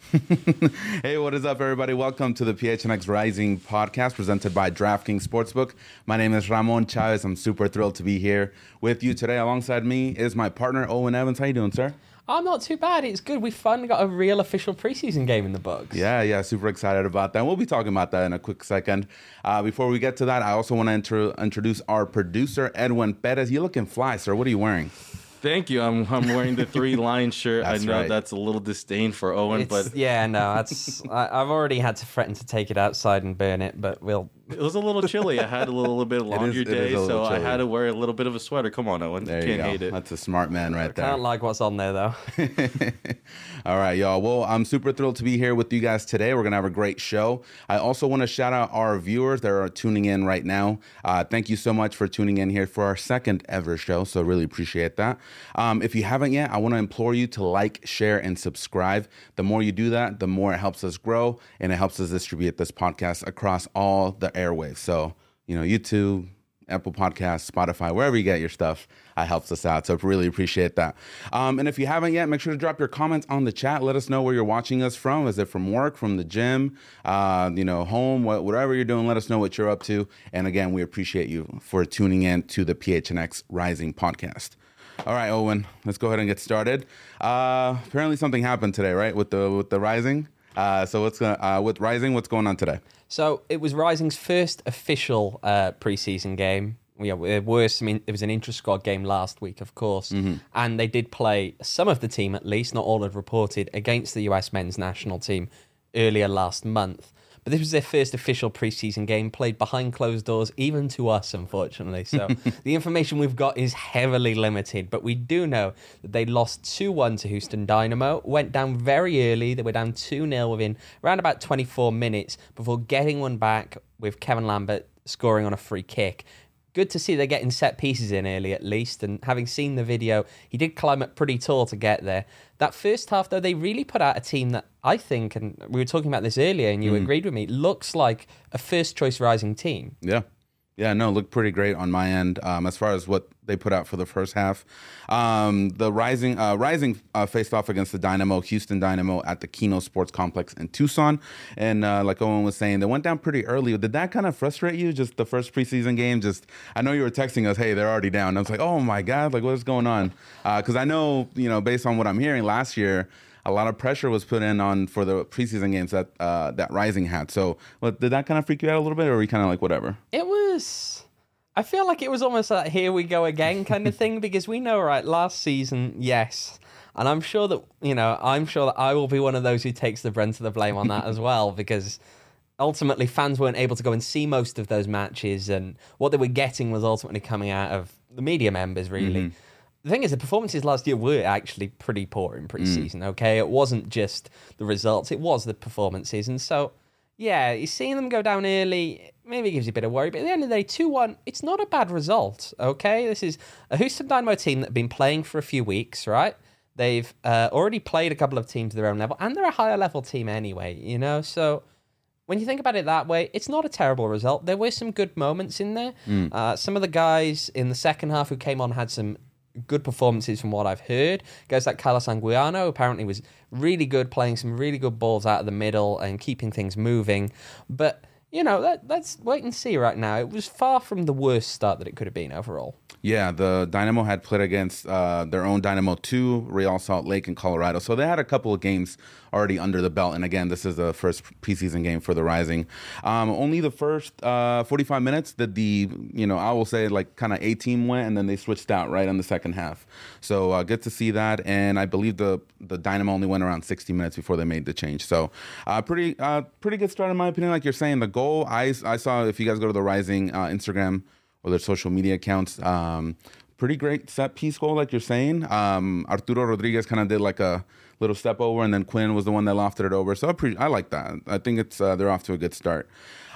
Hey, what is up, everybody? Welcome to the PHNX Rising podcast presented by DraftKings Sportsbook. My name is Ramon Chavez. I'm super thrilled to be here with you today. Alongside me is my partner, Owen Evans. How you doing, sir? I'm not too bad. It's good. We finally got a real official preseason game in the books. Yeah, super excited about that. We'll be talking about that in a quick second. Before we get to that, I also want to introduce our producer, Edwin Perez. You're looking fly, sir. What are you wearing? Thank you. I'm wearing the Three Lions shirt. That's I know right. that's a little disdain for Owen, but Yeah, no, that's I've already had to threaten to take it outside and burn it, but it was a little chilly. I had a little bit of laundry it is day, a little so I chilly. had to wear a little bit of a sweater. Come on, Owen. There you Can't go. hate it. That's a smart man right there. can't like what's on there though. All right, y'all. Well, I'm super thrilled to be here with you guys today. We're going to have a great show. I also want to shout out our viewers that are tuning in right now. Thank you so much for tuning in here for our second ever show. So really appreciate that. If you haven't yet, I want to implore you to like, share, and subscribe. The more you do that, the more it helps us grow and it helps us distribute this podcast across all the airwaves. So, YouTube, Apple Podcasts, Spotify, wherever you get your stuff, helps us out. So really appreciate that. And if you haven't yet, make sure to drop your comments on the chat. Let us know where you're watching us from. Is it from work, from the gym, home, whatever you're doing, let us know what you're up to. And again, we appreciate you for tuning in to the PHNX Rising podcast. All right, Owen, let's go ahead and get started. Apparently something happened today, right? With the Rising. So with Rising, what's going on today? So it was Rising's first official preseason game. There was an intra-squad game last week, of course, and they did play some of the team, at least, not all had reported, against the US men's national team earlier last month. But this was their first official preseason game, played behind closed doors, even to us, unfortunately. So the information we've got is heavily limited, but we do know that they lost 2-1 to Houston Dynamo, went down very early. They were down 2-0 within around about 24 minutes before getting one back with Kevin Lambert scoring on a free kick. Good to see they're getting set pieces in early, at least. And having seen the video, he did climb up pretty tall to get there. That first half, though, they really put out a team that I think, and we were talking about this earlier, and you agreed with me, looks like a first-choice Rising team. Yeah, no, looked pretty great on my end as far as what they put out for the first half. The Rising faced off against the Houston Dynamo at the Keno Sports Complex in Tucson. And like Owen was saying, they went down pretty early. Did that kind of frustrate you, just the first preseason game? I know you were texting us, hey, they're already down. I was like, oh my God, like what is going on? Because I know, based on what I'm hearing last year, a lot of pressure was put in for the preseason games that Rising had. So did that kind of freak you out a little bit, or were you kind of like, whatever? I feel like it was almost like here we go again kind of thing, because we know, right, last season, yes. And I'm sure that I will be one of those who takes the brunt of the blame on that as well, because ultimately fans weren't able to go and see most of those matches, and what they were getting was ultimately coming out of the media members, really. The thing is, the performances last year were actually pretty poor in preseason, okay? It wasn't just the results, it was the performances. And so, yeah, you're seeing them go down early, maybe gives you a bit of worry. But at the end of the day, 2-1, it's not a bad result, okay? This is a Houston Dynamo team that have been playing for a few weeks, right? They've already played a couple of teams at their own level, and they're a higher level team anyway, So when you think about it that way, it's not a terrible result. There were some good moments in there. Some of the guys in the second half who came on had some good performances from what I've heard. Guys like Carlos Anguiano apparently was really good, playing some really good balls out of the middle and keeping things moving. But, let's wait and see right now. It was far from the worst start that it could have been overall. Yeah, the Dynamo had played against their own Dynamo 2, Real Salt Lake in Colorado. So they had a couple of games already under the belt. And again, this is the first preseason game for the Rising. Only the first 45 minutes that I will say like kind of A-team went, and then they switched out right in the second half. So good to see that. And I believe the Dynamo only went around 60 minutes before they made the change. So pretty good start in my opinion. Like you're saying, the goal, I saw, if you guys go to the Rising Instagram or their social media accounts, pretty great set piece goal, like you're saying. Arturo Rodriguez kind of did like a little step over, and then Quinn was the one that lofted it over. So I like that. I think they're off to a good start.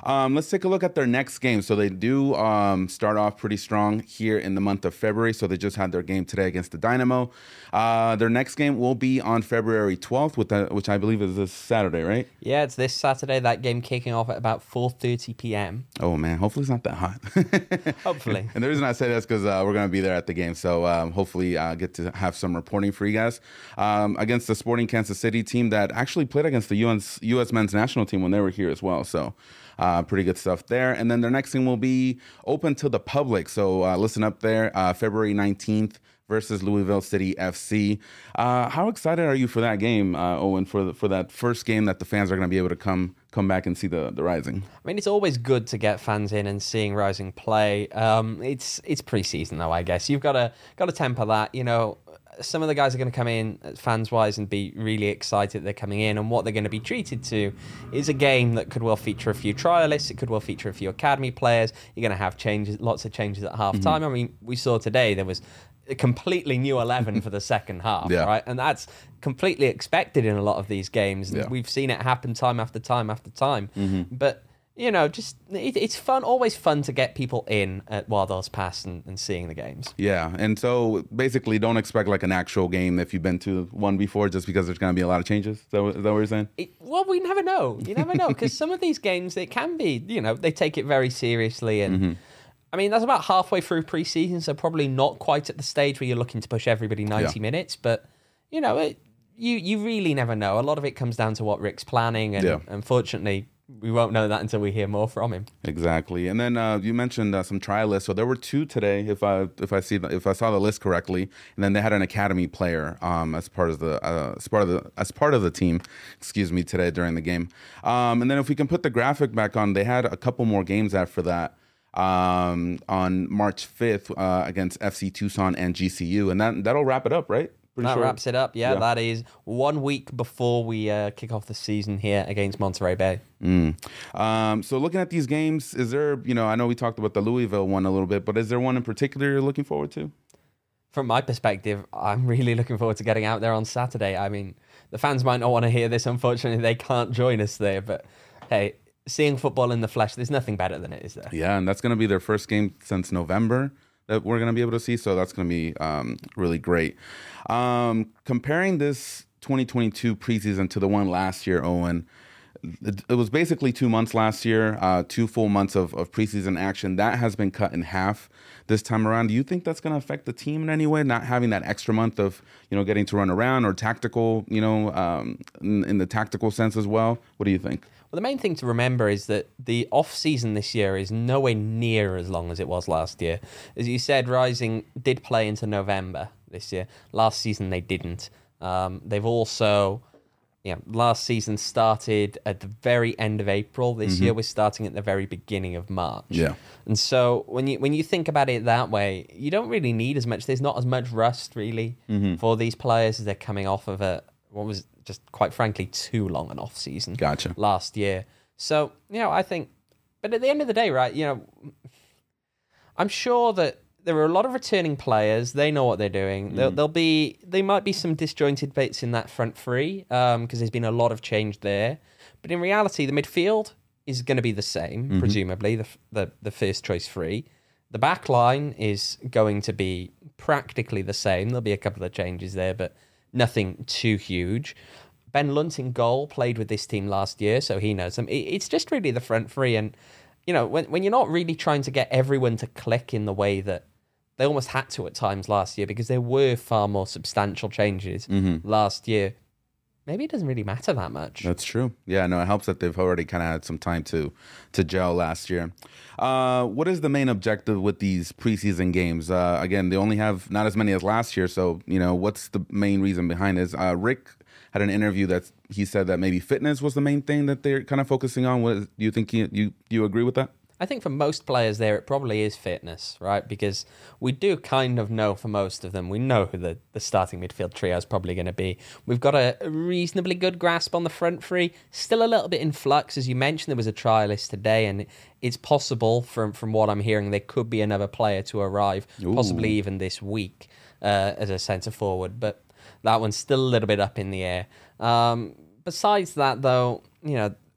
Let's take a look at their next game. So they do start off pretty strong here in the month of February. So they just had their game today against the Dynamo. Their next game will be on February 12th, which I believe is this Saturday, right? Yeah, it's this Saturday. That game kicking off at about 4:30 p.m. Oh, man. Hopefully it's not that hot. Hopefully. And the reason I say that is because we're going to be there at the game. So hopefully get to have some reporting for you guys. Against the Sporting Kansas City team that actually played against the U.S. men's national team when they were here as well. So pretty good stuff there. And then their next game will be open to the public. So listen up there, February 19th versus Louisville City FC. How excited are you for that game, Owen, for that first game that the fans are going to be able to come back and see the Rising? I mean, it's always good to get fans in and seeing Rising play. It's preseason though, I guess. You've got to temper that. You know, some of the guys are going to come in fans-wise and be really excited that they're coming in, and what they're going to be treated to is a game that could well feature a few trialists. It could well feature a few academy players. You're going to have lots of changes at half-time. I mean, we saw today there was a completely new 11 for the second half, right? And that's completely expected in a lot of these games. Yeah. We've seen it happen time after time after time. But, you know, just it's fun, always fun to get people in at Wild Horse Pass and seeing the games. Yeah, and so basically don't expect like an actual game if you've been to one before just because there's going to be a lot of changes. Is that what you're saying? Well, we never know. You never know, because some of these games, it can be, you know, they take it very seriously and... I mean, that's about halfway through preseason, so probably not quite at the stage where you're looking to push everybody 90 minutes. But, you know, you really never know. A lot of it comes down to what Rick's planning, and unfortunately, we won't know that until we hear more from him. Exactly. And then you mentioned some trialists. So there were 2 today, if I saw the list correctly. And then they had an academy player as part of the team. Excuse me, today during the game. And then if we can put the graphic back on, they had a couple more games after that. On March 5th against FC Tucson and GCU, and that'll wrap it up, right? That wraps it up. Yeah, that is 1 week before we kick off the season here against Monterey Bay. So looking at these games, is there, you know, I know we talked about the Louisville one a little bit, but is there one in particular you're looking forward to? From my perspective, I'm really looking forward to getting out there on Saturday. I mean, the fans might not want to hear this. Unfortunately, they can't join us there, but hey, seeing football in the flesh, there's nothing better than it, is there? Yeah, and that's going to be their first game since November that we're going to be able to see, so that's going to be really great. Comparing this 2022 preseason to the one last year, Owen, it was basically 2 months last year, 2 full months of preseason action. That has been cut in half this time around. Do you think that's going to affect the team in any way, not having that extra month of, you know, getting to run around or tactical, you know, in the tactical sense as well? What do you think? Well, the main thing to remember is that the off-season this year is nowhere near as long as it was last year. As you said, Rising did play into November this year. Last season, they didn't. They've also... Yeah, last season started at the very end of April. This year we're starting at the very beginning of March. Yeah. And so when you think about it that way, you don't really need as much. There's not as much rust really for these players as they're coming off of what was just quite frankly too long an off season. Gotcha. Last year. So, you know, I think, but at the end of the day, right, you know, I'm sure that there are a lot of returning players. They know what they're doing. There might be some disjointed bits in that front three because there's been a lot of change there. But in reality, the midfield is going to be the same, presumably, the first choice three. The back line is going to be practically the same. There'll be a couple of changes there, but nothing too huge. Ben Lunt in goal played with this team last year, so he knows them. It's just really the front three. And, you know, when you're not really trying to get everyone to click in the way that they almost had to at times last year, because there were far more substantial changes last year, maybe it doesn't really matter that much. That's true. Yeah, no, it helps that they've already kind of had some time to gel last year. What is the main objective with these preseason games? Again, they only have not as many as last year, so, you know, what's the main reason behind this? Rick had an interview that he said that maybe fitness was the main thing that they're kind of focusing on. Do you think you agree with that? I think for most players there, it probably is fitness, right? Because we do kind of know for most of them, we know who the starting midfield trio is probably going to be. We've got a reasonably good grasp on the front three. Still a little bit in flux. As you mentioned, there was a trialist today, and it's possible from what I'm hearing, there could be another player to arrive, possibly even this week as a centre forward. But that one's still a little bit up in the air. Besides that, though, you know,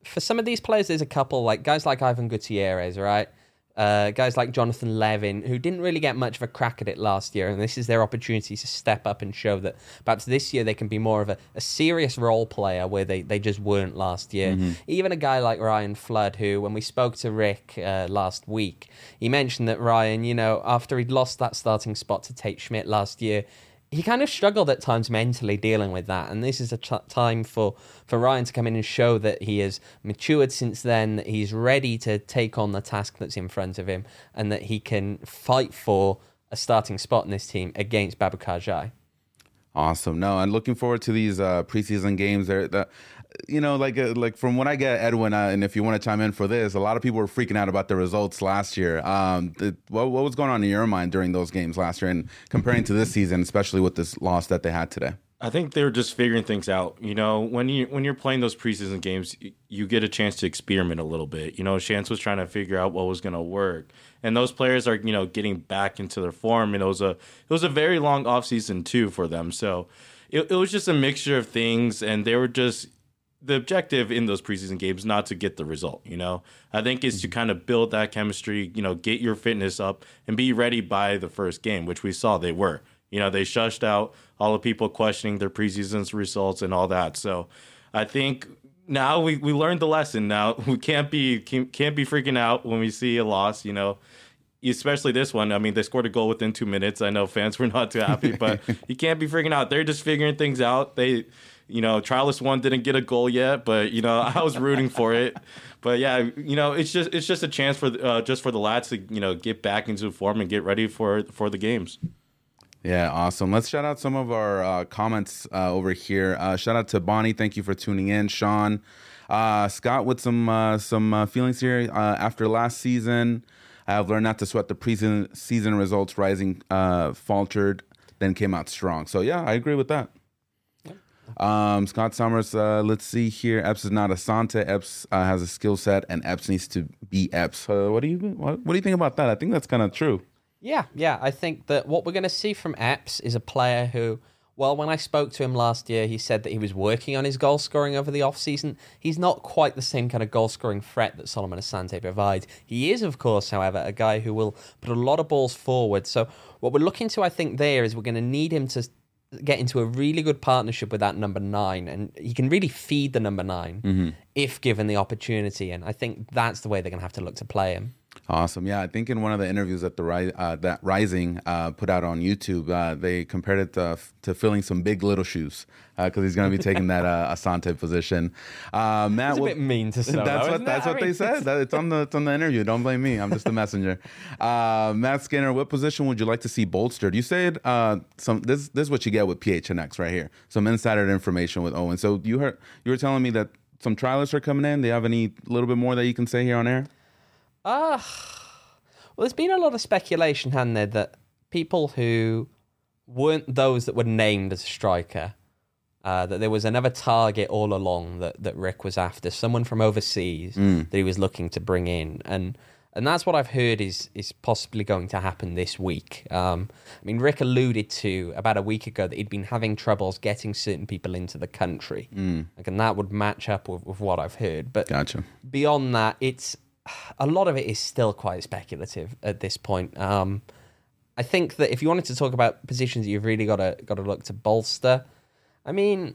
for some of these players, there's a couple, like guys like Ivan Gutierrez, right? Guys like Jonathan Levin, who didn't really get much of a crack at it last year, and this is their opportunity to step up and show that perhaps this year they can be more of a serious role player where they just weren't last year. Even a guy like Ryan Flood, who, when we spoke to Rick last week, he mentioned that Ryan, after he'd lost that starting spot to Tate Schmidt last year, he kind of struggled at times mentally dealing with that, and this is a time for Ryan to come in and show that he has matured since then, that he's ready to take on the task that's in front of him, and that he can fight for a starting spot in this team against Babukar Jai. Awesome. No, I'm looking forward to these preseason games. Like from when I get Edwin, and if you want to chime in for this, a lot of people were freaking out about the results last year. What was going on in your mind during those games last year, and comparing to this season, especially with this loss that they had today? I think they were just figuring things out. When you're playing those preseason games, you get a chance to experiment a little bit. Chance was trying to figure out what was going to work, and those players are getting back into their form. And it was a very long offseason too for them. So it was just a mixture of things, and they were just the objective in those preseason games not to get the result. I think is to kind of build that chemistry. Get your fitness up and be ready by the first game, which we saw they were. They shushed out all the people questioning their preseason results and all that. So I think now we learned the lesson. Now we can't be freaking out when we see a loss, especially this one. I mean, they scored a goal within 2 minutes. I know fans were not too happy, but you can't be freaking out. They're just figuring things out. Trialist one didn't get a goal yet, but I was rooting for it. But yeah, it's just a chance for the lads to get back into form and get ready for the games. Yeah, awesome. Let's shout out some of our comments over here. Shout out to Bonnie. Thank you for tuning in. Sean, Scott with some feelings here. After last season, I have learned not to sweat the preseason results. Rising faltered, then came out strong. So yeah, I agree with that. Scott Summers, let's see here. Epps is not Asante. Epps has a skill set, and Epps needs to be Epps. What do you think about that? I think that's kind of true. Yeah. I think that what we're going to see from Epps is a player who, well, when I spoke to him last year, he said that he was working on his goal scoring over the offseason. He's not quite the same kind of goal scoring threat that Solomon Asante provides. He is, of course, however, a guy who will put a lot of balls forward. So what we're looking to, I think, there is we're going to need him to get into a really good partnership with that number 9, and he can really feed the number 9 if given the opportunity. And I think that's the way they're going to have to look to play him. Awesome. Yeah, I think in one of the interviews that that Rising put out on YouTube, they compared it to filling some big little shoes because he's going to be taking that Asante position. Matt, it's a bit mean to say. That's what they said. It's on the interview. Don't blame me. I'm just the messenger. Matt Skinner, what position would you like to see bolstered? You said this is what you get with PHNX right here. Some insider information with Owen. So you were telling me that some trialists are coming in. Do you have any little bit more that you can say here on air? Well, there's been a lot of speculation, hasn't there, that people who weren't those that were named as a striker, that there was another target all along that Rick was after, someone from overseas that he was looking to bring in. And that's what I've heard is possibly going to happen this week. Rick alluded to about a week ago that he'd been having troubles getting certain people into the country. And that would match up with what I've heard. But gotcha. Beyond that, a lot of it is still quite speculative at this point. I think that if you wanted to talk about positions that you've really got to look to bolster, I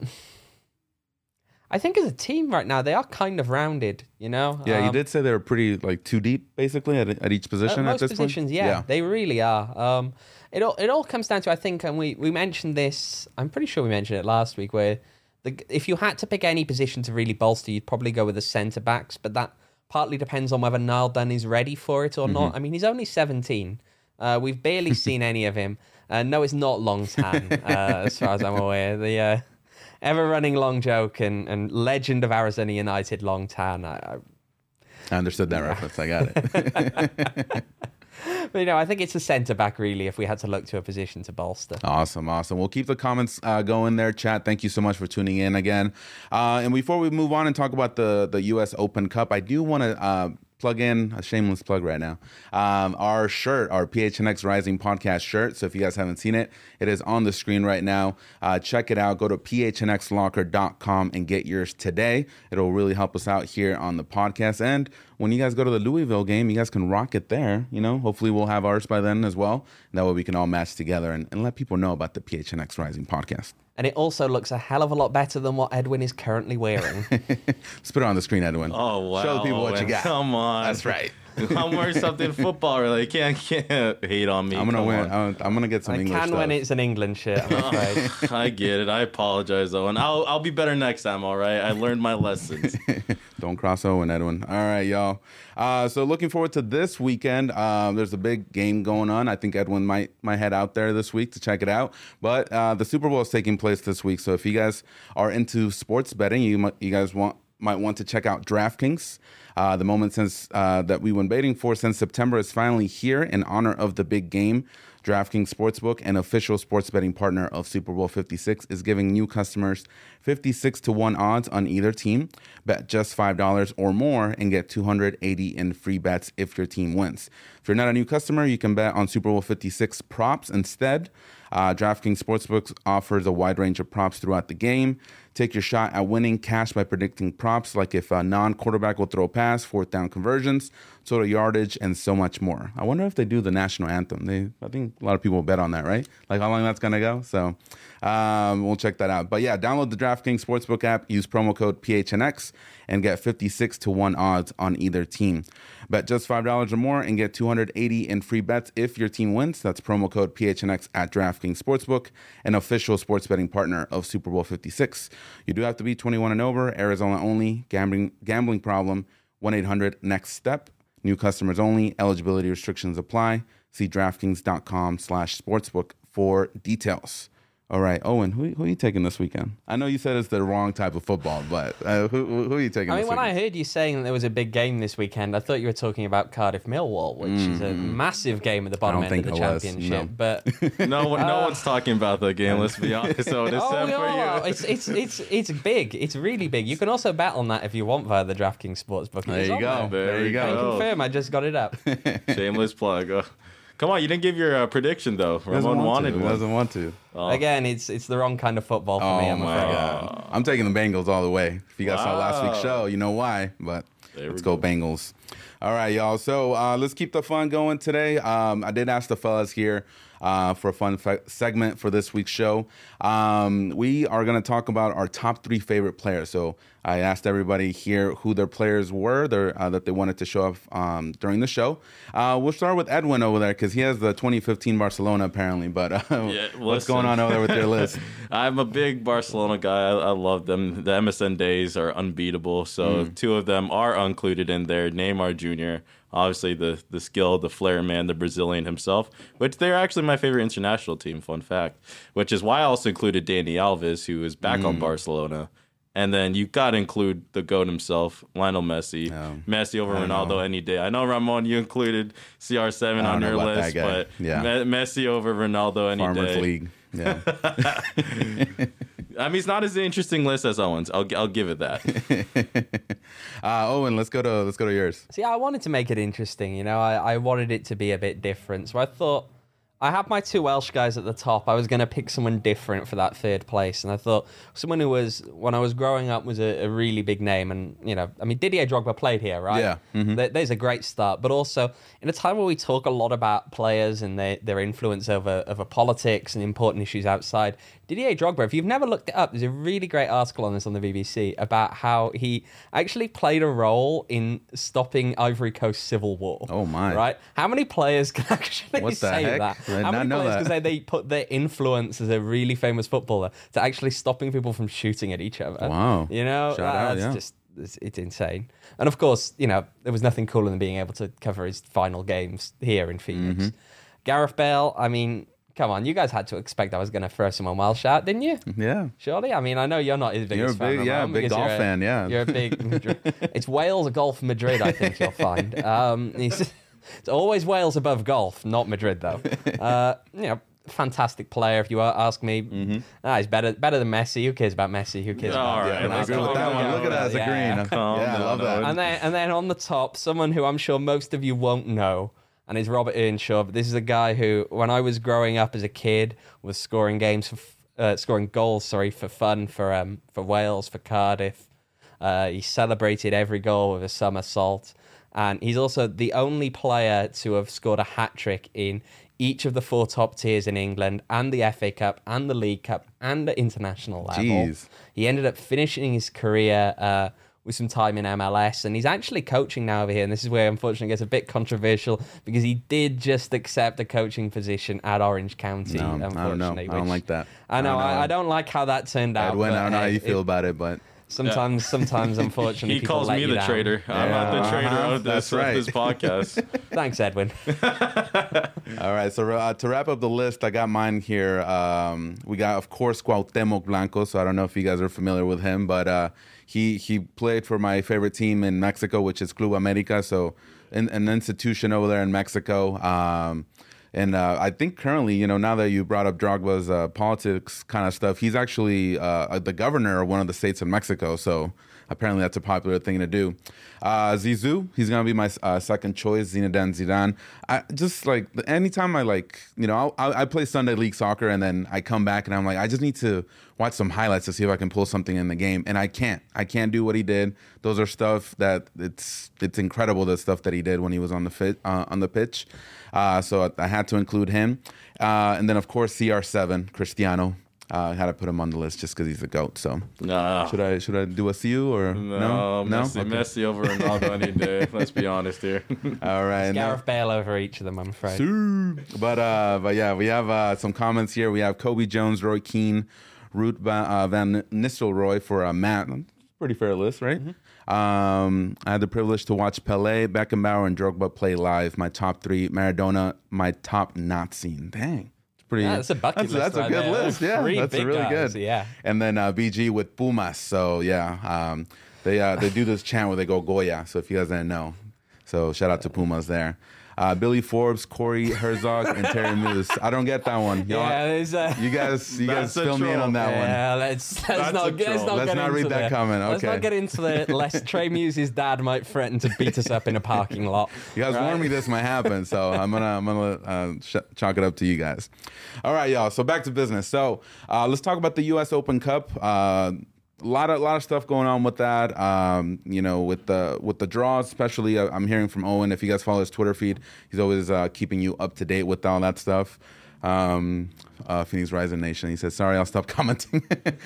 think as a team right now they are kind of rounded. Yeah, you did say they were pretty too deep basically at each position at this positions, point. Yeah, they really are. It all comes down to, I think, and we mentioned this. I'm pretty sure we mentioned it last week, where if you had to pick any position to really bolster, you'd probably go with the centre backs, but that partly depends on whether Niall Dunn is ready for it or not. He's only 17. We've barely seen any of him. No, it's not Long Tan, as far as I'm aware. The ever-running long joke and legend of Arizona United, Long Tan. I understood that reference. I got it. But, I think it's a centre-back, really, if we had to look to a position to bolster. Awesome. We'll keep the comments going there, chat. Thank you so much for tuning in again. And before we move on and talk about the U.S. Open Cup, I do want to plug in a shameless plug right now. Our shirt, our PHNX Rising podcast shirt. So if you guys haven't seen it, it is on the screen right now. Check it out. Go to phnxlocker.com and get yours today. It'll really help us out here on the podcast. And when you guys go to the Louisville game, you guys can rock it there. You know, hopefully we'll have ours by then as well. That way we can all match together and let people know about the PHNX Rising podcast. And it also looks a hell of a lot better than what Edwin is currently wearing. Let's put it on the screen, Edwin. Oh, wow. Show the people what you Owen, got. Come on. That's right. I'm wearing something football related. Can't hate on me. I'm gonna Come win. on. I'm gonna get some I English can stuff. when it's an England shirt, I'm afraid. I get it. I apologize, Owen. I'll be better next time, all right? I learned my lessons. Don't cross Owen, Edwin. All right, y'all. So looking forward to this weekend. There's a big game going on. I think Edwin might head out there this week to check it out. But the Super Bowl is taking place this week. So if you guys are into sports betting, you guys might want to check out DraftKings. The moment since that we've been waiting for since September is finally here in honor of the big game. DraftKings Sportsbook, an official sports betting partner of Super Bowl 56, is giving new customers 56-1 odds on either team. Bet just $5 or more and get $280 in free bets if your team wins. If you're not a new customer, you can bet on Super Bowl 56 props instead. DraftKings Sportsbook offers a wide range of props throughout the game. Take your shot at winning cash by predicting props like if a non-quarterback will throw a pass, fourth down conversions, total yardage, and so much more. I wonder if they do the national anthem. I think a lot of people bet on that, right? Like how long that's going to go. So we'll check that out. But yeah, download the DraftKings Sportsbook app, use promo code PHNX, and get 56-1 odds on either team. Bet just $5 or more and get $280 in free bets if your team wins. That's promo code PHNX at DraftKings Sportsbook, an official sports betting partner of Super Bowl 56. You do have to be 21 and over, Arizona only, gambling problem, 1-800-NEXT-STEP. New customers only, eligibility restrictions apply. See DraftKings.com/sportsbook for details. All right, Owen, who are you taking this weekend? I know you said it's the wrong type of football, but who are you taking I this mean, when weekend? I heard you saying that there was a big game this weekend, I thought you were talking about Cardiff Millwall, which is a massive game at the bottom don't end of the think it was, championship. no. But No one's talking about the game, let's be honest. So it's oh, for no, you. it's big. It's really big. You can also bet on that if you want via the DraftKings Sportsbook. There you go. There you I can go. confirm. I just got it up. Shameless plug. Come on, you didn't give your prediction, though. Ramon wanted one. Doesn't want to. Again, it's the wrong kind of football for me, Oh I'm my afraid. God. I'm taking the Bengals all the way. If you guys saw last week's Wow. show, you know why. But There let's we go go. Bengals. All right, y'all. So let's keep the fun going today. I did ask the fellas here for a fun segment for this week's show. We are going to talk about our top 3 favorite players. So I asked everybody here who their players were that they wanted to show off during the show. We'll start with Edwin over there because he has the 2015 Barcelona apparently. But what's going on over there with your list? I'm a big Barcelona guy. I love them. The MSN days are unbeatable. So 2 of them are included in there. Neymar Jr., obviously the skill, the flair man, the Brazilian himself, which they're actually my favorite international team, fun fact, which is why I also included Dani Alves, who is back on Barcelona. And then you got to include the GOAT himself, Lionel Messi. Messi over Ronaldo any day. I know, Ramon, you included CR7 on your list, but Messi over Ronaldo any Farmers day. League. Yeah. I mean, it's not as interesting list as Owen's. I'll give it that. Owen, let's go to yours. See, I wanted to make it interesting. You know, I wanted it to be a bit different. So I thought I have my 2 Welsh guys at the top. I was going to pick someone different for that 3rd place. And I thought someone who was, when I was growing up, was a really big name. And, you know, I mean, Didier Drogba played here, right? Yeah. Mm-hmm. There's a great start. But also, in a time where we talk a lot about players and their influence over politics and important issues outside, Didier Drogba, if you've never looked it up, there's a really great article on this on the BBC about how he actually played a role in stopping Ivory Coast civil war. Oh, my. Right? How many players can actually What the say heck? that? I did How not many know players that. can say they put their influence as a really famous footballer to actually stopping people from shooting at each other? Wow. You know, Shout out, that's yeah. just it's insane. And of course, you know, there was nothing cooler than being able to cover his final games here in Phoenix. Mm-hmm. Gareth Bale, I mean, come on, you guys had to expect I was going to throw someone Welsh out, didn't you? Yeah. Surely? I mean, I know you're not his biggest fan. Ramon, big because golf you're fan, yeah. You're a big Madrid. It's Wales, golf, Madrid, I think you'll find. It's always Wales above golf, not Madrid, though. You know, fantastic player. If you ask me, he's better than Messi. Who cares about Messi? Who cares about? All right, I agree with that one. Look at us agreeing. I love that. And then on the top, someone who I'm sure most of you won't know, and is Robert Earnshaw. But this is a guy who, when I was growing up as a kid, was scoring goals for fun for Wales, for Cardiff. He celebrated every goal with a somersault. And he's also the only player to have scored a hat-trick in each of the 4 top tiers in England, and the FA Cup, and the League Cup, and the international level. Jeez. He ended up finishing his career with some time in MLS, and he's actually coaching now over here. And this is where, unfortunately, it gets a bit controversial, because he did just accept a coaching position at Orange County, unfortunately. I don't know. I don't like that. I know. I don't like how that turned out. Edwin, I don't know how you feel about it, but... Sometimes, unfortunately, he calls me the traitor. I'm not the traitor of this podcast. Thanks, Edwin. All right, so to wrap up the list, I got mine here. We got, of course, Cuauhtemoc Blanco. So I don't know if you guys are familiar with him, but he played for my favorite team in Mexico, which is Club America. So an institution over there in Mexico. And I think currently, now that you brought up Drogba's politics kind of stuff, he's actually the governor of one of the states in Mexico. So apparently that's a popular thing to do. Zizou, he's going to be my second choice, Zinedine Zidane. Anytime I play Sunday League Soccer, and then I come back and I'm like, I just need to watch some highlights to see if I can pull something in the game. And I can't do what he did. Those are stuff that it's incredible, the stuff that he did when he was on the pitch. So I had to include him. And then, of course, CR7, Cristiano. I had to put him on the list just because he's a GOAT. So should I do a CU or no? Messi over Ronaldo any day. Let's be honest here. All right, Gareth Bale over each of them, I'm afraid. But yeah, we have some comments here. We have Kobe Jones, Roy Keane, Ruud van Nistelrooy for Matt. Pretty fair list, right? I had the privilege to watch Pelé, Beckenbauer, and Drogba play live. My top 3, Maradona, my top not seen. Dang. That's a bucket list. That's a good list. Yeah, that's really good. Yeah. And then BG with Pumas. So yeah, they do this chant where they go Goya. So if you guys didn't know, so shout out to Pumas there. Billy Forbes, Corey Herzog, and Terry Moose. I don't get that one. You guys fill me in on that one. Yeah, let's not read that comment. Okay. Let's not get into it. Lest Trey Muse's dad might threaten to beat us up in a parking lot. You guys warned me this might happen, so I'm gonna chalk it up to you guys. All right, y'all. So back to business. So let's talk about the U.S. Open Cup. A lot of stuff going on with that. With the draws, especially. I'm hearing from Owen. If you guys follow his Twitter feed, he's always keeping you up to date with all that stuff. Phoenix Rising Nation. He says, "Sorry, I'll stop commenting."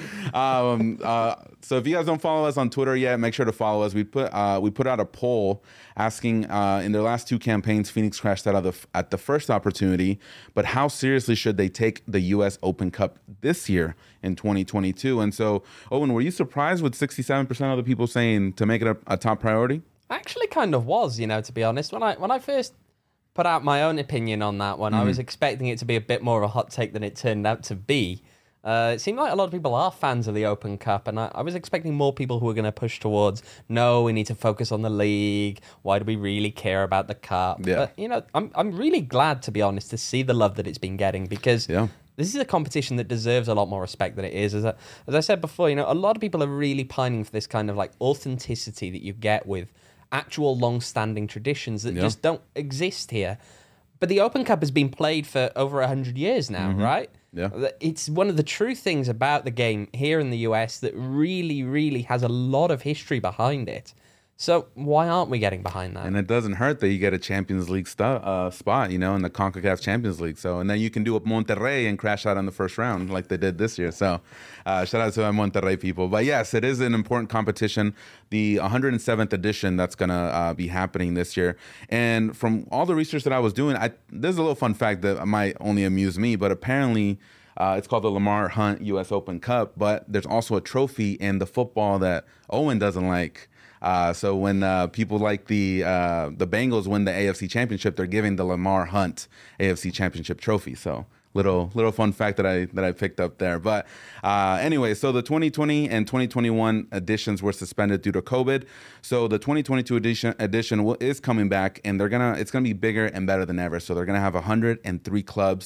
So if you guys don't follow us on Twitter yet, make sure to follow us. We put out a poll asking in their last 2 campaigns, Phoenix crashed out at the first opportunity, but how seriously should they take the U.S. Open Cup this year in 2022? And so, Owen, were you surprised with 67% of the people saying to make it a top priority? I actually kind of was, to be honest. When I first put out my own opinion on that one, I was expecting it to be a bit more of a hot take than it turned out to be. It seemed like a lot of people are fans of the Open Cup, and I was expecting more people who were going to push towards, no, we need to focus on the league. Why do we really care about the cup? Yeah. But, I'm really glad, to be honest, to see the love that it's been getting, because this is a competition that deserves a lot more respect than it is. As I said before, a lot of people are really pining for this kind of authenticity that you get with actual long-standing traditions that just don't exist here. But the Open Cup has been played for over 100 years now, right? Yeah. It's one of the true things about the game here in the US that really, really has a lot of history behind it. So why aren't we getting behind that? And it doesn't hurt that you get a Champions League spot, in the CONCACAF Champions League. So, and then you can do a Monterrey and crash out in the first round like they did this year. So shout out to my Monterrey people. But yes, it is an important competition. The 107th edition that's going to be happening this year. And from all the research that I was doing, there's a little fun fact that might only amuse me, but apparently it's called the Lamar Hunt U.S. Open Cup. But there's also a trophy in the football that Owen doesn't like. So when people like the Bengals win the AFC Championship, they're giving the Lamar Hunt AFC Championship trophy. So little fun fact that I picked up there. But anyway, so the 2020 and 2021 editions were suspended due to COVID. So the 2022 edition is coming back, and it's gonna be bigger and better than ever. So they're gonna have 103 clubs.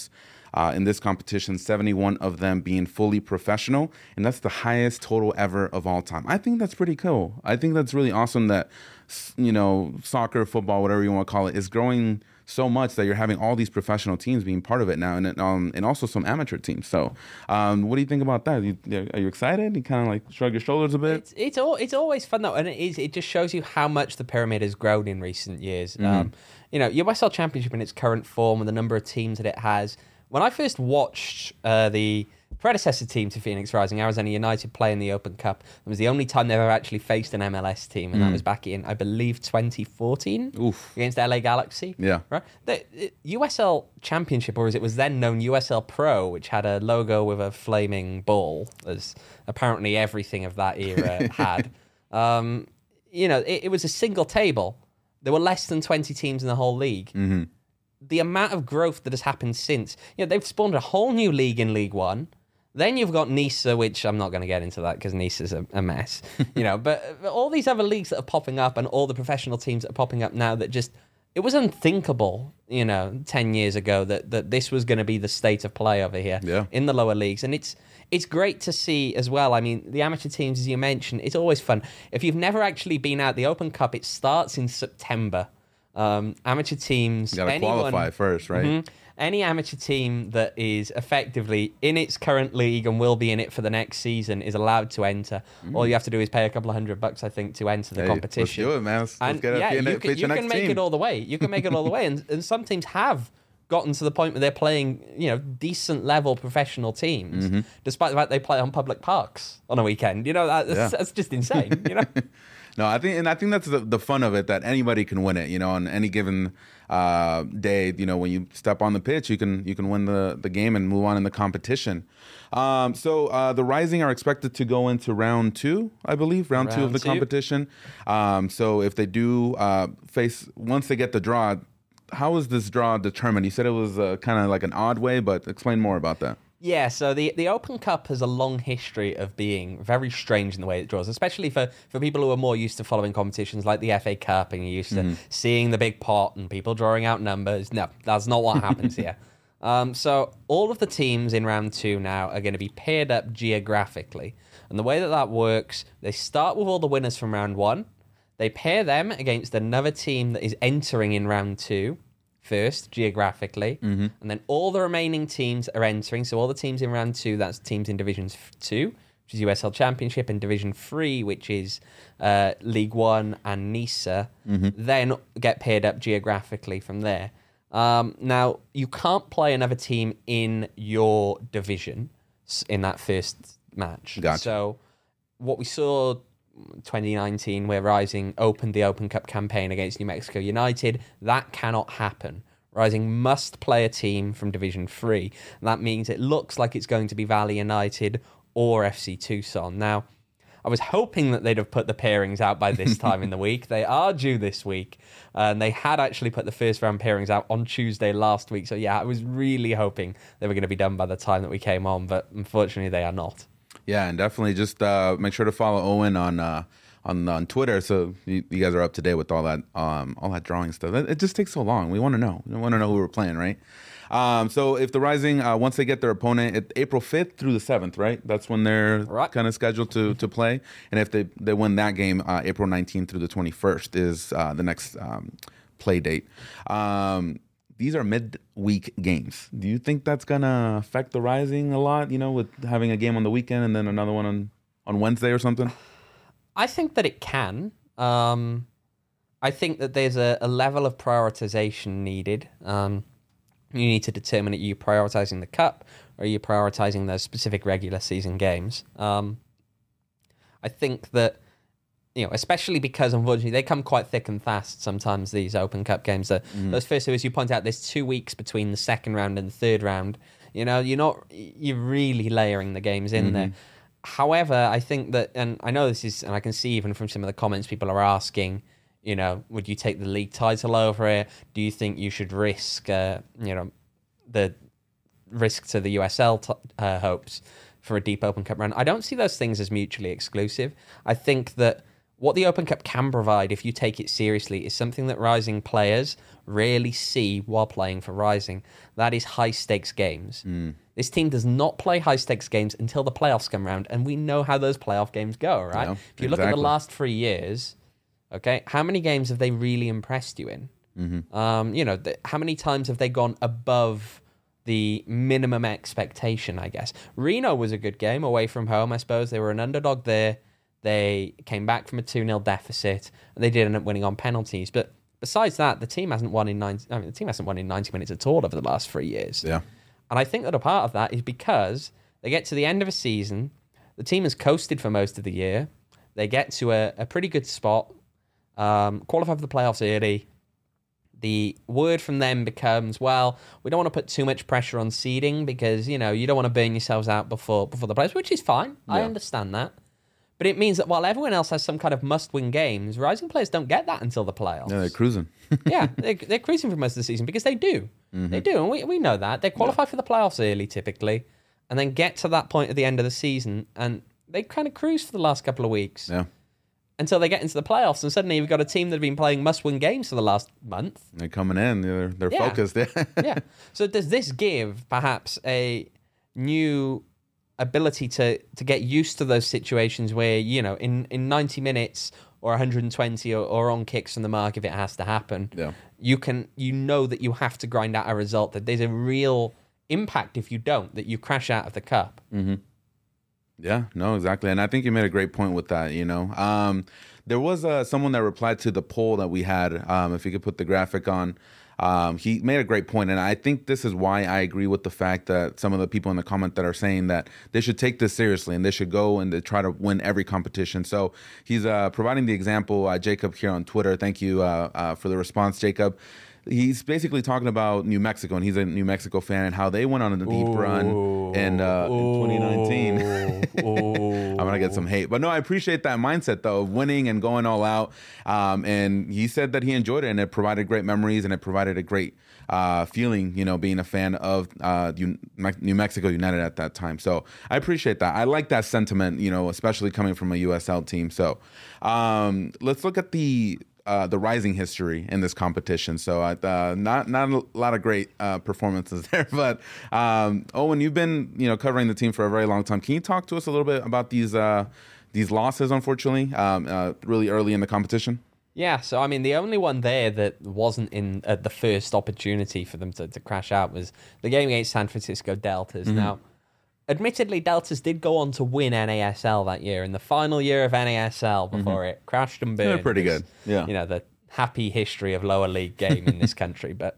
in this competition, 71 of them being fully professional, and that's the highest total ever of all time. I think that's pretty cool. I think that's really awesome that, soccer, football, whatever you want to call it, is growing so much that you're having all these professional teams being part of it now, and also some amateur teams. So, what do you think about that? Are you excited? You kind of like shrug your shoulders a bit. It's always fun though, and it just shows you how much the pyramid has grown in recent years. USL Championship in its current form and the number of teams that it has. When I first watched the predecessor team to Phoenix Rising, Arizona United, play in the Open Cup, it was the only time they've ever actually faced an MLS team, and that was back in, I believe, 2014 against LA Galaxy. Yeah. Right? The USL Championship, or as it was then known, USL Pro, which had a logo with a flaming ball, as apparently everything of that era had. It was a single table. There were less than 20 teams in the whole league. Mm-hmm. The amount of growth that has happened since, they've spawned a whole new league in League One. Then you've got NISA, which I'm not going to get into that because NISA's a mess, but all these other leagues that are popping up and all the professional teams that are popping up now that just, it was unthinkable, 10 years ago that this was going to be the state of play over here in the lower leagues. And it's great to see as well. I mean, the amateur teams, as you mentioned, it's always fun. If you've never actually been out the Open Cup, it starts in September. Amateur teams, you gotta qualify first, right? Mm-hmm, any amateur team that is effectively in its current league and will be in it for the next season is allowed to enter. All you have to do is pay a couple of $100, I think, to enter the competition. Let's do it, man. Let's get up you can make it all the way. You can make it all the way, and some teams have gotten to the point where they're playing, decent level professional teams, despite the fact they play on public parks on a weekend. That's just insane. No, I think that's the fun of it, that anybody can win it. On any given day, when you step on the pitch, you can win the game and move on in the competition. So the Rising are expected to go into round 2, I believe, round 2 of the competition. So if they do once they get the draw, how is this draw determined? You said it was kind of like an odd way, but explain more about that. Yeah, so the Open Cup has a long history of being very strange in the way it draws, especially for people who are more used to following competitions like the FA Cup and you're used to seeing the big pot and people drawing out numbers. No, that's not what happens here. So all of the teams in round 2 now are going to be paired up geographically. And the way that works, they start with all the winners from round 1. They pair them against another team that is entering in round 2. First, geographically, and then all the remaining teams are entering. So all the teams in round 2, that's teams in Division 2, which is USL Championship, and Division 3, which is League 1 and NISA, then get paired up geographically from there. Now, you can't play another team in your division in that first match. Gotcha. So what we saw 2019, where Rising opened the Open Cup campaign against New Mexico United, that cannot happen. Rising must play a team from Division 3. And that means it looks like it's going to be Valley United or FC Tucson. Now, I was hoping that they'd have put the pairings out by this time in the week. They are due this week. And they had actually put the first round pairings out on Tuesday last week. So yeah, I was really hoping they were going to be done by the time that we came on. But unfortunately, they are not. Yeah, and definitely just make sure to follow Owen on Twitter, so you guys are up to date with all that drawing stuff. It just takes so long. We want to know. We want to know who we're playing, right? So if the Rising, once they get their opponent, April 5th through the 7th, right? That's when they're kind of scheduled to play. And if they win that game, April 19th through the 21st is the next play date. These are midweek games. Do you think that's going to affect the Rising a lot, with having a game on the weekend and then another one on Wednesday or something? I think that it can. I think that there's a level of prioritization needed. You need to determine, are you prioritizing the Cup or are you prioritizing those specific regular season games? I think that, especially because, unfortunately, they come quite thick and fast sometimes, these Open Cup games. Those first two, as you point out, there's 2 weeks between the second round and the third round. You're really layering the games in there. However, I think that, and I know this is, and I can see even from some of the comments people are asking, would you take the league title over it? Do you think you should risk, the risk to the USL hopes for a deep Open Cup run? I don't see those things as mutually exclusive. I think that what the Open Cup can provide if you take it seriously is something that Rising players rarely see while playing for Rising. That is high-stakes games. This team does not play high-stakes games until the playoffs come around, and we know how those playoff games go, right? Yeah, if you look at the last 3 years, okay, how many games have they really impressed you in? How many times have they gone above the minimum expectation, I guess? Reno was a good game away from home, I suppose. They were an underdog there. They came back from a 2-0 deficit, and they did end up winning on penalties. But besides that, the team hasn't won in 90 minutes at all over the last 3 years. Yeah. And I think that a part of that is because they get to the end of a season, the team has coasted for most of the year. They get to a pretty good spot, qualify for the playoffs early. The word from them becomes, well, we don't want to put too much pressure on seeding because, you don't want to burn yourselves out before the playoffs, which is fine. Yeah. I understand that. But it means that while everyone else has some kind of must-win games, Rising players don't get that until the playoffs. Yeah, they're cruising. Yeah, they're cruising for most of the season because they do. They do, and we know that. They qualify for the playoffs early, typically, and then get to that point at the end of the season, and they kind of cruise for the last couple of weeks. Yeah. Until they get into the playoffs, and suddenly you've got a team that have been playing must-win games for the last month. They're coming in. They're focused. Yeah. So does this give perhaps a new ability to get used to those situations where, in 90 minutes or 120 or on kicks from the mark if it has to happen, you know that you have to grind out a result, that there's a real impact if you don't, that you crash out of the cup. Mm-hmm. Yeah, no, exactly. And I think you made a great point with that, There was someone that replied to the poll that we had, if you could put the graphic on. He made a great point, and I think this is why I agree with the fact that some of the people in the comment that are saying that they should take this seriously and they should go and they try to win every competition. So he's providing the example, Jacob here on Twitter. Thank you for the response, Jacob. He's basically talking about New Mexico, and he's a New Mexico fan, and how they went on a deep run in 2019. I'm going to get some hate. But no, I appreciate that mindset, though, of winning and going all out. And he said that he enjoyed it, and it provided great memories, and it provided a great feeling, being a fan of New Mexico United at that time. So I appreciate that. I like that sentiment, especially coming from a USL team. So let's look at the Rising history in this competition. So not a lot of great performances there, but Owen, you've been covering the team for a very long time. Can you talk to us a little bit about these losses, unfortunately, really early in the competition? Yeah, so I mean, the only one there that wasn't in the first opportunity for them to crash out was the game against San Francisco Deltas. Mm-hmm. Now, admittedly, Deltas did go on to win NASL that year, in the final year of NASL before it crashed and burned. They're pretty good. Yeah, the happy history of lower league game in this country. But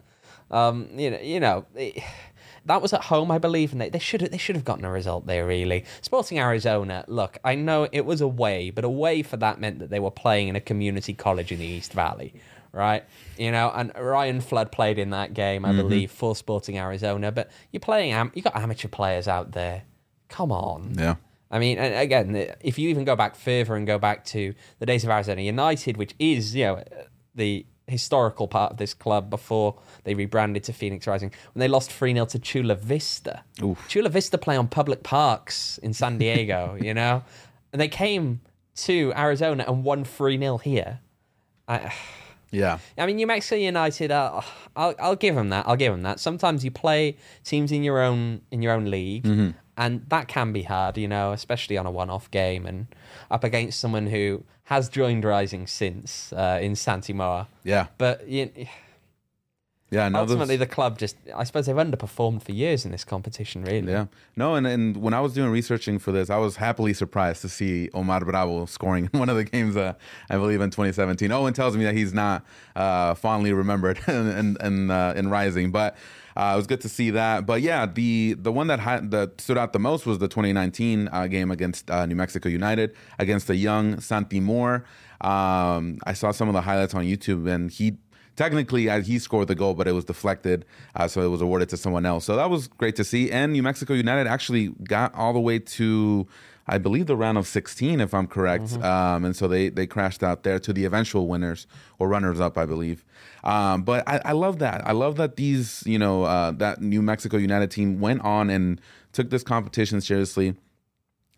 that was at home, I believe, and they should have gotten a result there. Really, Sporting Arizona. Look, I know it was away, but away for that meant that they were playing in a community college in the East Valley. Right, and Ryan Flood played in that game, I believe, for Sporting Arizona. But you're playing, you got amateur players out there. Come on, yeah. I mean, and again, if you even go back further and go back to the days of Arizona United, which is the historical part of this club before they rebranded to Phoenix Rising, when they lost 3-0 to Chula Vista. Oof. Chula Vista play on public parks in San Diego, and they came to Arizona and won 3-0 here. Yeah, I mean, New Mexico United. I'll give them that. I'll give them that. Sometimes you play teams in your own league, and that can be hard, especially on a one-off game and up against someone who has joined Rising since in Santi Moa. Yeah, but ultimately the club I suppose they've underperformed for years in this competition, really. Yeah, no, and when I was doing researching for this, I was happily surprised to see Omar Bravo scoring in one of the games, I believe in 2017. Owen tells me that he's not fondly remembered in Rising, but it was good to see that. But yeah, the one that stood out the most was the 2019 game against New Mexico United, against the young Santi Moore. I saw some of the highlights on YouTube, and technically, he scored the goal, but it was deflected, so it was awarded to someone else. So that was great to see. And New Mexico United actually got all the way to, I believe, the round of 16, if I'm correct. Mm-hmm. And so they crashed out there to the eventual winners or runners-up, I believe. But I love that. I love that these, that New Mexico United team went on and took this competition seriously.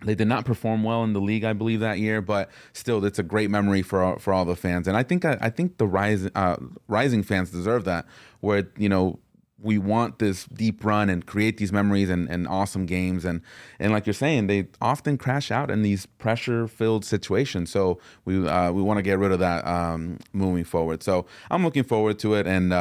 They did not perform well in the league, I believe, that year, but still, it's a great memory for all the fans. And I think the Rising fans deserve that, where we want this deep run and create these memories and awesome games. And like you're saying, they often crash out in these pressure-filled situations. So we want to get rid of that moving forward. So I'm looking forward to it and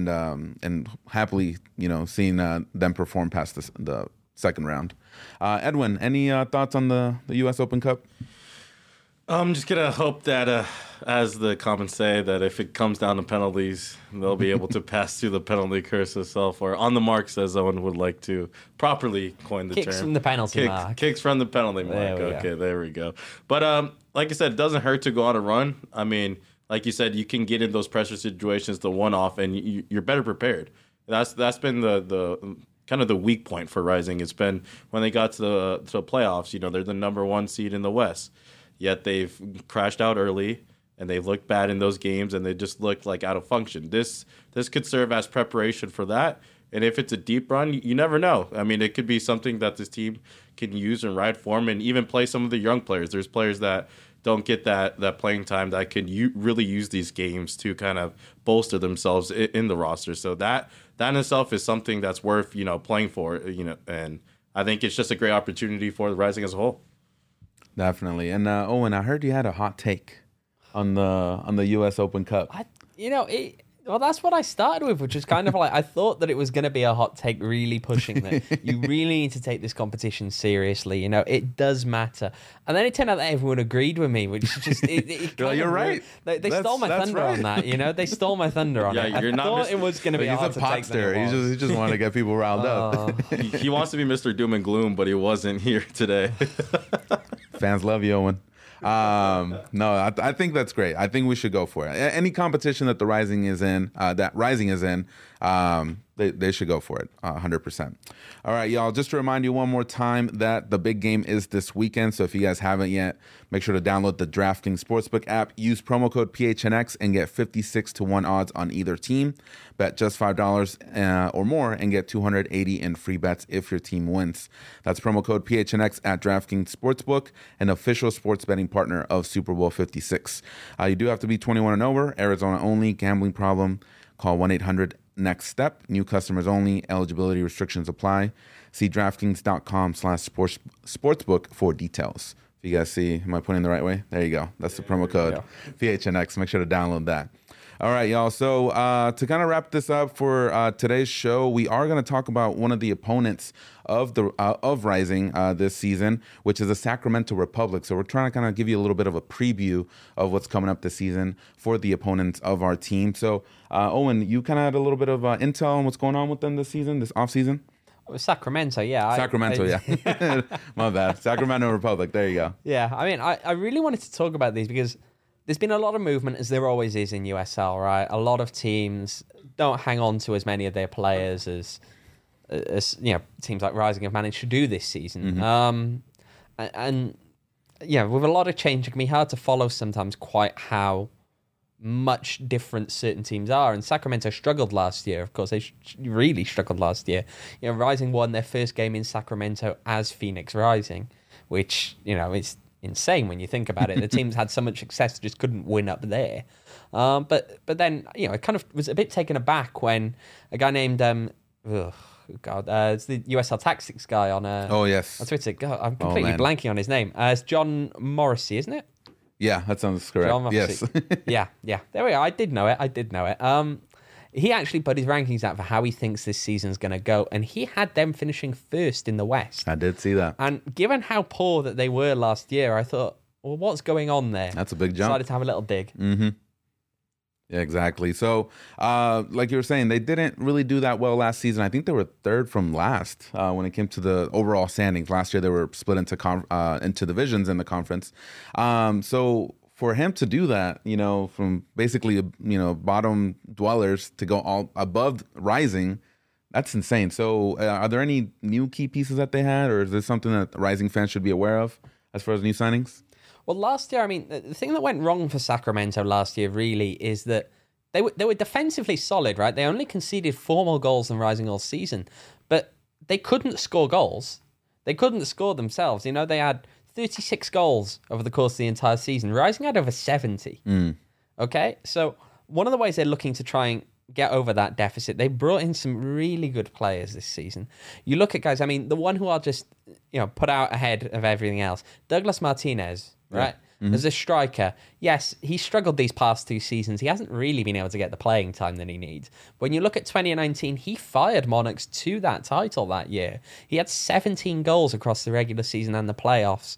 happily seeing them perform past the second round. Edwin, any thoughts on the U.S. Open Cup? I'm just going to hope that, as the comments say, that if it comes down to penalties, they'll be able to pass through the penalty curse itself, or on the marks, as Owen would like to properly coin the term. Kicks from the penalty mark. Kicks from the penalty mark. Okay, there we go. But like I said, it doesn't hurt to go on a run. I mean, like you said, you can get in those pressure situations, the one-off, and you're better prepared. That's been the kind of the weak point for Rising. It's been when they got to the playoffs, they're the number 1 seed in the West. Yet they've crashed out early, and they've looked bad in those games, and they just looked like out of function. This could serve as preparation for that. And if it's a deep run, you never know. I mean, it could be something that this team can use and ride form and even play some of the young players. There's players that don't get that playing time that can really use these games to kind of bolster themselves in the roster. So that in itself is something that's worth, playing for, and I think it's just a great opportunity for the Rising as a whole. Definitely. And Owen, I heard you had a hot take on the U.S. Open Cup. That's what I started with, which is kind of like, I thought that it was going to be a hot take, really pushing that you really need to take this competition seriously. It does matter. And then it turned out that everyone agreed with me, which is just... You're right. They stole my thunder on that, They stole my thunder on it. You're I thought it was going to be a hot take. He's a popster. He just wanted to get people riled up. He wants to be Mr. Doom and Gloom, but he wasn't here today. Fans love you, Owen. No, I think that's great. I think we should go for it. Any competition that the Rising is in, they should go for it, 100%. All right, y'all, just to remind you one more time that the big game is this weekend. So if you guys haven't yet, make sure to download the DraftKings Sportsbook app, use promo code PHNX, and get 56-1 odds on either team. Bet just $5 or more and get $280 in free bets if your team wins. That's promo code PHNX at DraftKings Sportsbook, an official sports betting partner of Super Bowl 56. You do have to be 21 and over, Arizona only, gambling problem, call 1-800-NEXT-STEP. New customers only. Eligibility restrictions apply. See DraftKings.com/sportsbook for details. If you guys see, am I pointing the right way? There you go. That's the promo code PHNX. Make sure to download that. All right, y'all. So to kind of wrap this up for today's show, we are going to talk about one of the opponents of Rising this season, which is the Sacramento Republic. So we're trying to kind of give you a little bit of a preview of what's coming up this season for the opponents of our team. So Owen, you kind of had a little bit of intel on what's going on with them this season, this off season. Sacramento, yeah. Yeah. My bad. Sacramento Republic. There you go. Yeah, I mean, I really wanted to talk about these because there's been a lot of movement, as there always is in USL, right? A lot of teams don't hang on to as many of their players as teams like Rising have managed to do this season. Mm-hmm. And with a lot of change, it can be hard to follow sometimes quite how much different certain teams are. And Sacramento struggled last year. Of course, they really struggled last year. Rising won their first game in Sacramento as Phoenix Rising, which, is insane when you think about it. The teams had so much success, just couldn't win up there. But then, it kind of was a bit taken aback when a guy named it's the USL Tactics guy on yes, on Twitter. God, I'm completely blanking on his name. It's John Morrissey, isn't it? Yeah, that sounds correct. John Morrissey. Yes. yeah. There we are. I did know it. He actually put his rankings out for how he thinks this season's going to go, and he had them finishing first in the West. I did see that. And given how poor that they were last year, I thought, well, what's going on there? That's a big jump. Decided to have a little dig. Mm-hmm. Yeah, exactly. So, like you were saying, they didn't really do that well last season. I think they were third from last when it came to the overall standings. Last year, they were split into divisions in the conference. So for him to do that, from basically, bottom dwellers to go all above Rising, that's insane. So are there any new key pieces that they had, or is this something that Rising fans should be aware of as far as new signings? Well, last year, I mean, the thing that went wrong for Sacramento last year really is that they were defensively solid, right? They only conceded 4 more goals than Rising all season, but they couldn't score goals. They couldn't score themselves. They had 36 goals over the course of the entire season. Rising had over 70. Okay, so one of the ways they're looking to try and get over that deficit, they brought in some really good players this season. You look at guys, I mean, the one who I'll just put out ahead of everything else, Douglas Martinez, right? As a striker, yes, he struggled these past 2 seasons. He hasn't really been able to get the playing time that he needs. When you look at 2019, he fired Monarchs to that title that year. He had 17 goals across the regular season and the playoffs.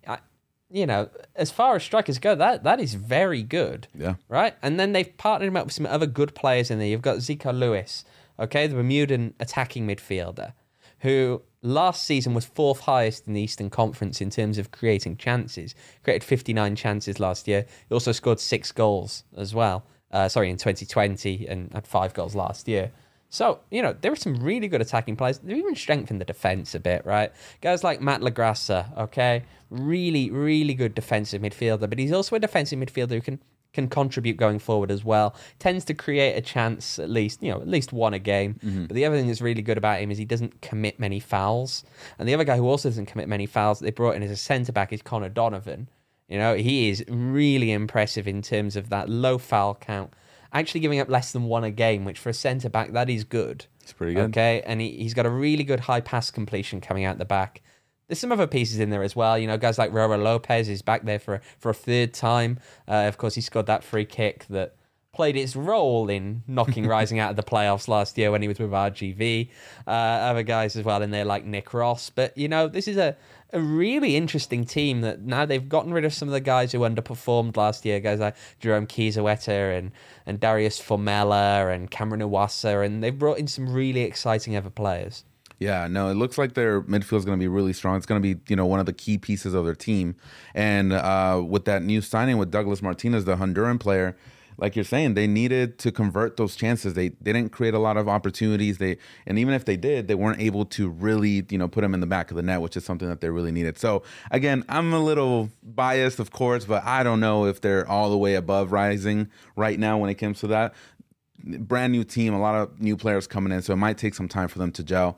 As far as strikers go, that is very good. Yeah. Right? And then they've partnered him up with some other good players in there. You've got Zico Lewis, okay, the Bermudan attacking midfielder, who last season was 4th highest in the Eastern Conference in terms of creating chances. Created 59 chances last year. He also scored 6 goals as well. In 2020 and had 5 goals last year. So, there are some really good attacking players. They've even strengthened the defence a bit, right? Guys like Matt Lagrassa, okay? Really, really good defensive midfielder, but he's also a defensive midfielder who can contribute going forward as well. Tends to create a chance at least one a game. But the other thing that's really good about him is he doesn't commit many fouls. And the other guy who also doesn't commit many fouls that they brought in as a centre-back is Connor Donovan. He is really impressive in terms of that low foul count. Actually giving up less than 1 a game, which for a centre-back, that is good. It's pretty good. Okay, and he's got a really good high pass completion coming out the back. There's some other pieces in there as well. Guys like Roro Lopez is back there for a 3rd time. Of course, he scored that free kick that played its role in knocking Rising out of the playoffs last year when he was with RGV. Other guys as well in there like Nick Ross. But, this is a really interesting team that now they've gotten rid of some of the guys who underperformed last year. Guys like Jerome Kiesewetter and Darius Formella and Cameron Iwasa. And they've brought in some really exciting other players. Yeah, no, it looks like their midfield is going to be really strong. It's going to be, one of the key pieces of their team. And with that new signing with Douglas Martinez, the Honduran player, like you're saying, they needed to convert those chances. They didn't create a lot of opportunities. And even if they did, they weren't able to really, put them in the back of the net, which is something that they really needed. So again, I'm a little biased, of course, but I don't know if they're all the way above Rising right now when it comes to that. Brand new team, a lot of new players coming in, so it might take some time for them to gel.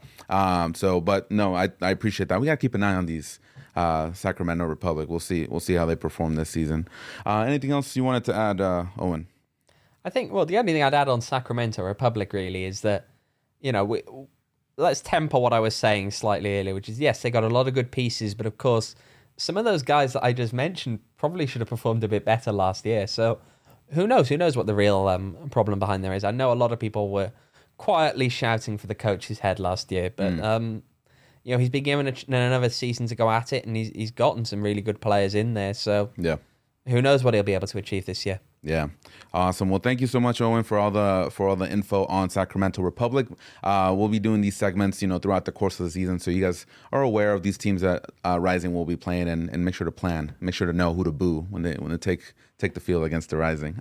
But no, I appreciate that. We got to keep an eye on these Sacramento Republic. We'll see how they perform this season. Anything else you wanted to add, Owen? I think, the only thing I'd add on Sacramento Republic really is that, let's temper what I was saying slightly earlier, which is, yes, they got a lot of good pieces, but of course, some of those guys that I just mentioned probably should have performed a bit better last year. So who knows? Who knows what the real problem behind there is? I know a lot of people were quietly shouting for the coach's head last year, but he's been given another season to go at it, and he's gotten some really good players in there. So yeah, who knows what he'll be able to achieve this year? Yeah, awesome. Well, thank you so much, Owen, for all the info on Sacramento Republic. We'll be doing these segments, throughout the course of the season, so you guys are aware of these teams that Rising will be playing, and make sure to plan, make sure to know who to boo when they take the field against the Rising.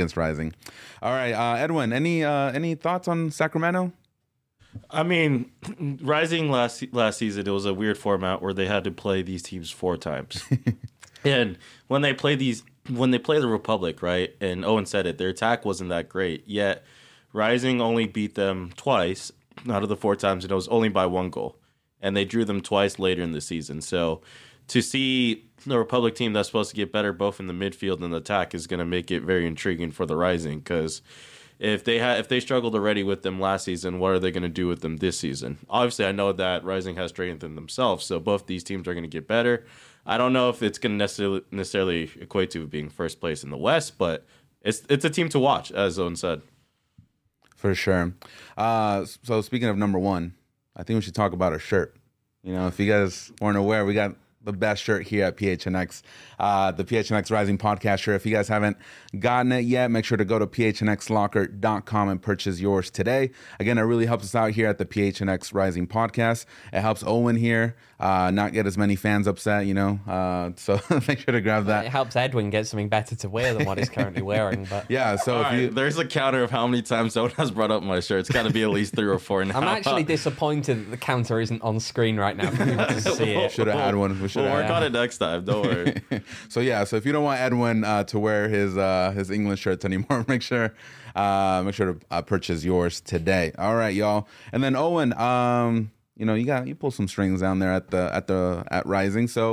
All right, Edwin, any thoughts on Sacramento? I mean, Rising last season, it was a weird format where they had to play these teams 4 times, and when they play the Republic, right, and Owen said it, their attack wasn't that great, yet Rising only beat them twice out of the 4 times, and it was only by 1 goal. And they drew them twice later in the season. So to see the Republic team that's supposed to get better both in the midfield and the attack is going to make it very intriguing for the Rising, because if they struggled already with them last season, what are they going to do with them this season? Obviously, I know that Rising has strengthened themselves, so both these teams are going to get better. I don't know if it's going to necessarily equate to being first place in the West, but it's a team to watch, as Owen said. For sure. So speaking of number 1, I think we should talk about our shirt. If you guys weren't aware, we got the best shirt here at PHNX, the PHNX Rising podcast shirt. If you guys haven't gotten it yet, make sure to go to phnxlocker.com and purchase yours today. Again, it really helps us out here at the PHNX Rising podcast. It helps Owen here not get as many fans upset, so make sure to grab that. It helps Edwin get something better to wear than what he's currently wearing. But yeah, so there's a counter of how many times Owen has brought up my shirt. It's got to be at least 3 or 4 now. I'm actually disappointed that the counter isn't on screen right now for people to see it. Should have had one. We'll work on it next time. Don't worry. So if you don't want Edwin to wear his England shirts anymore, make sure to purchase yours today. All right, y'all. And then Owen, you pull some strings down there at Rising. So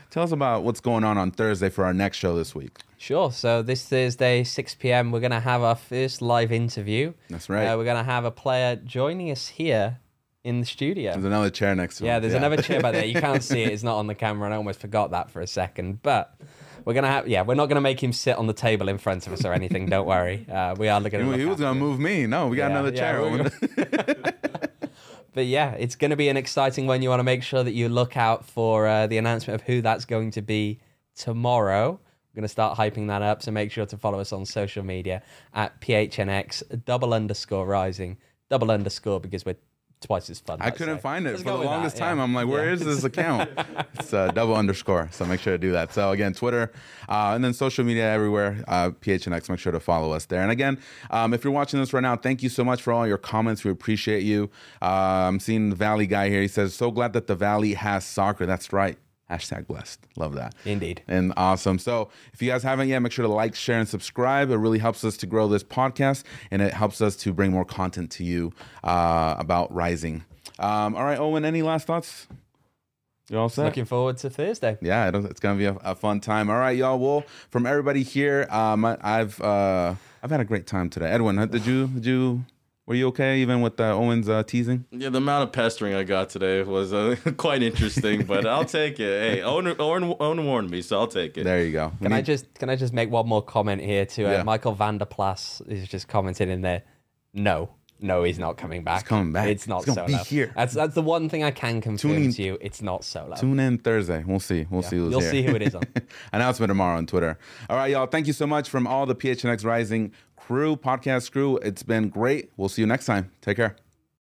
tell us about what's going on Thursday for our next show this week. Sure. So this Thursday, 6 p.m., we're going to have our first live interview. That's right. We're going to have a player joining us here in the studio. There's another chair next to him. Yeah, there's another chair back there. You can't see it. It's not on the camera, and I almost forgot that for a second. But we're going to have, we're not going to make him sit on the table in front of us or anything. Don't worry. We are looking at He was going to move me. No, we got another chair. But yeah, it's going to be an exciting one. You want to make sure that you look out for the announcement of who that's going to be tomorrow. We're going to start hyping that up, so make sure to follow us on social media at PHNX _rising _ because we're twice as fun. I couldn't find it Let's for go the with longest that, time. I'm like, where is this account? It's _, so make sure to do that. So again, Twitter and then social media everywhere, PHNX, make sure to follow us there. And again, if you're watching this right now, thank you so much for all your comments. We appreciate you. I'm seeing the Valley guy here. He says, so glad that the Valley has soccer. That's right. #blessed. Love that. Indeed. And awesome. So if you guys haven't yet, make sure to like, share, and subscribe. It really helps us to grow this podcast, and it helps us to bring more content to you about Rising. All right, Owen, any last thoughts? You all set? Looking forward to Thursday. Yeah, it's going to be a fun time. All right, y'all. Well, from everybody here, I've had a great time today. Edwin, were you okay even with Owen's teasing? Yeah, the amount of pestering I got today was quite interesting, but I'll take it. Hey, Owen warned me, so I'll take it. There you go. Can I just make one more comment here to Michael van der Plas is just commented in there. No, he's not coming back. He's coming back. It's not He's gonna Solo. be here. That's the one thing I can confirm to you. It's not Solo. Tune in Thursday. We'll see. We'll see who's You'll here. see who it is on. Announcement tomorrow on Twitter. All right, y'all. Thank you so much from all the PHNX Rising crew, podcast crew. It's been great. We'll see you next time. Take care.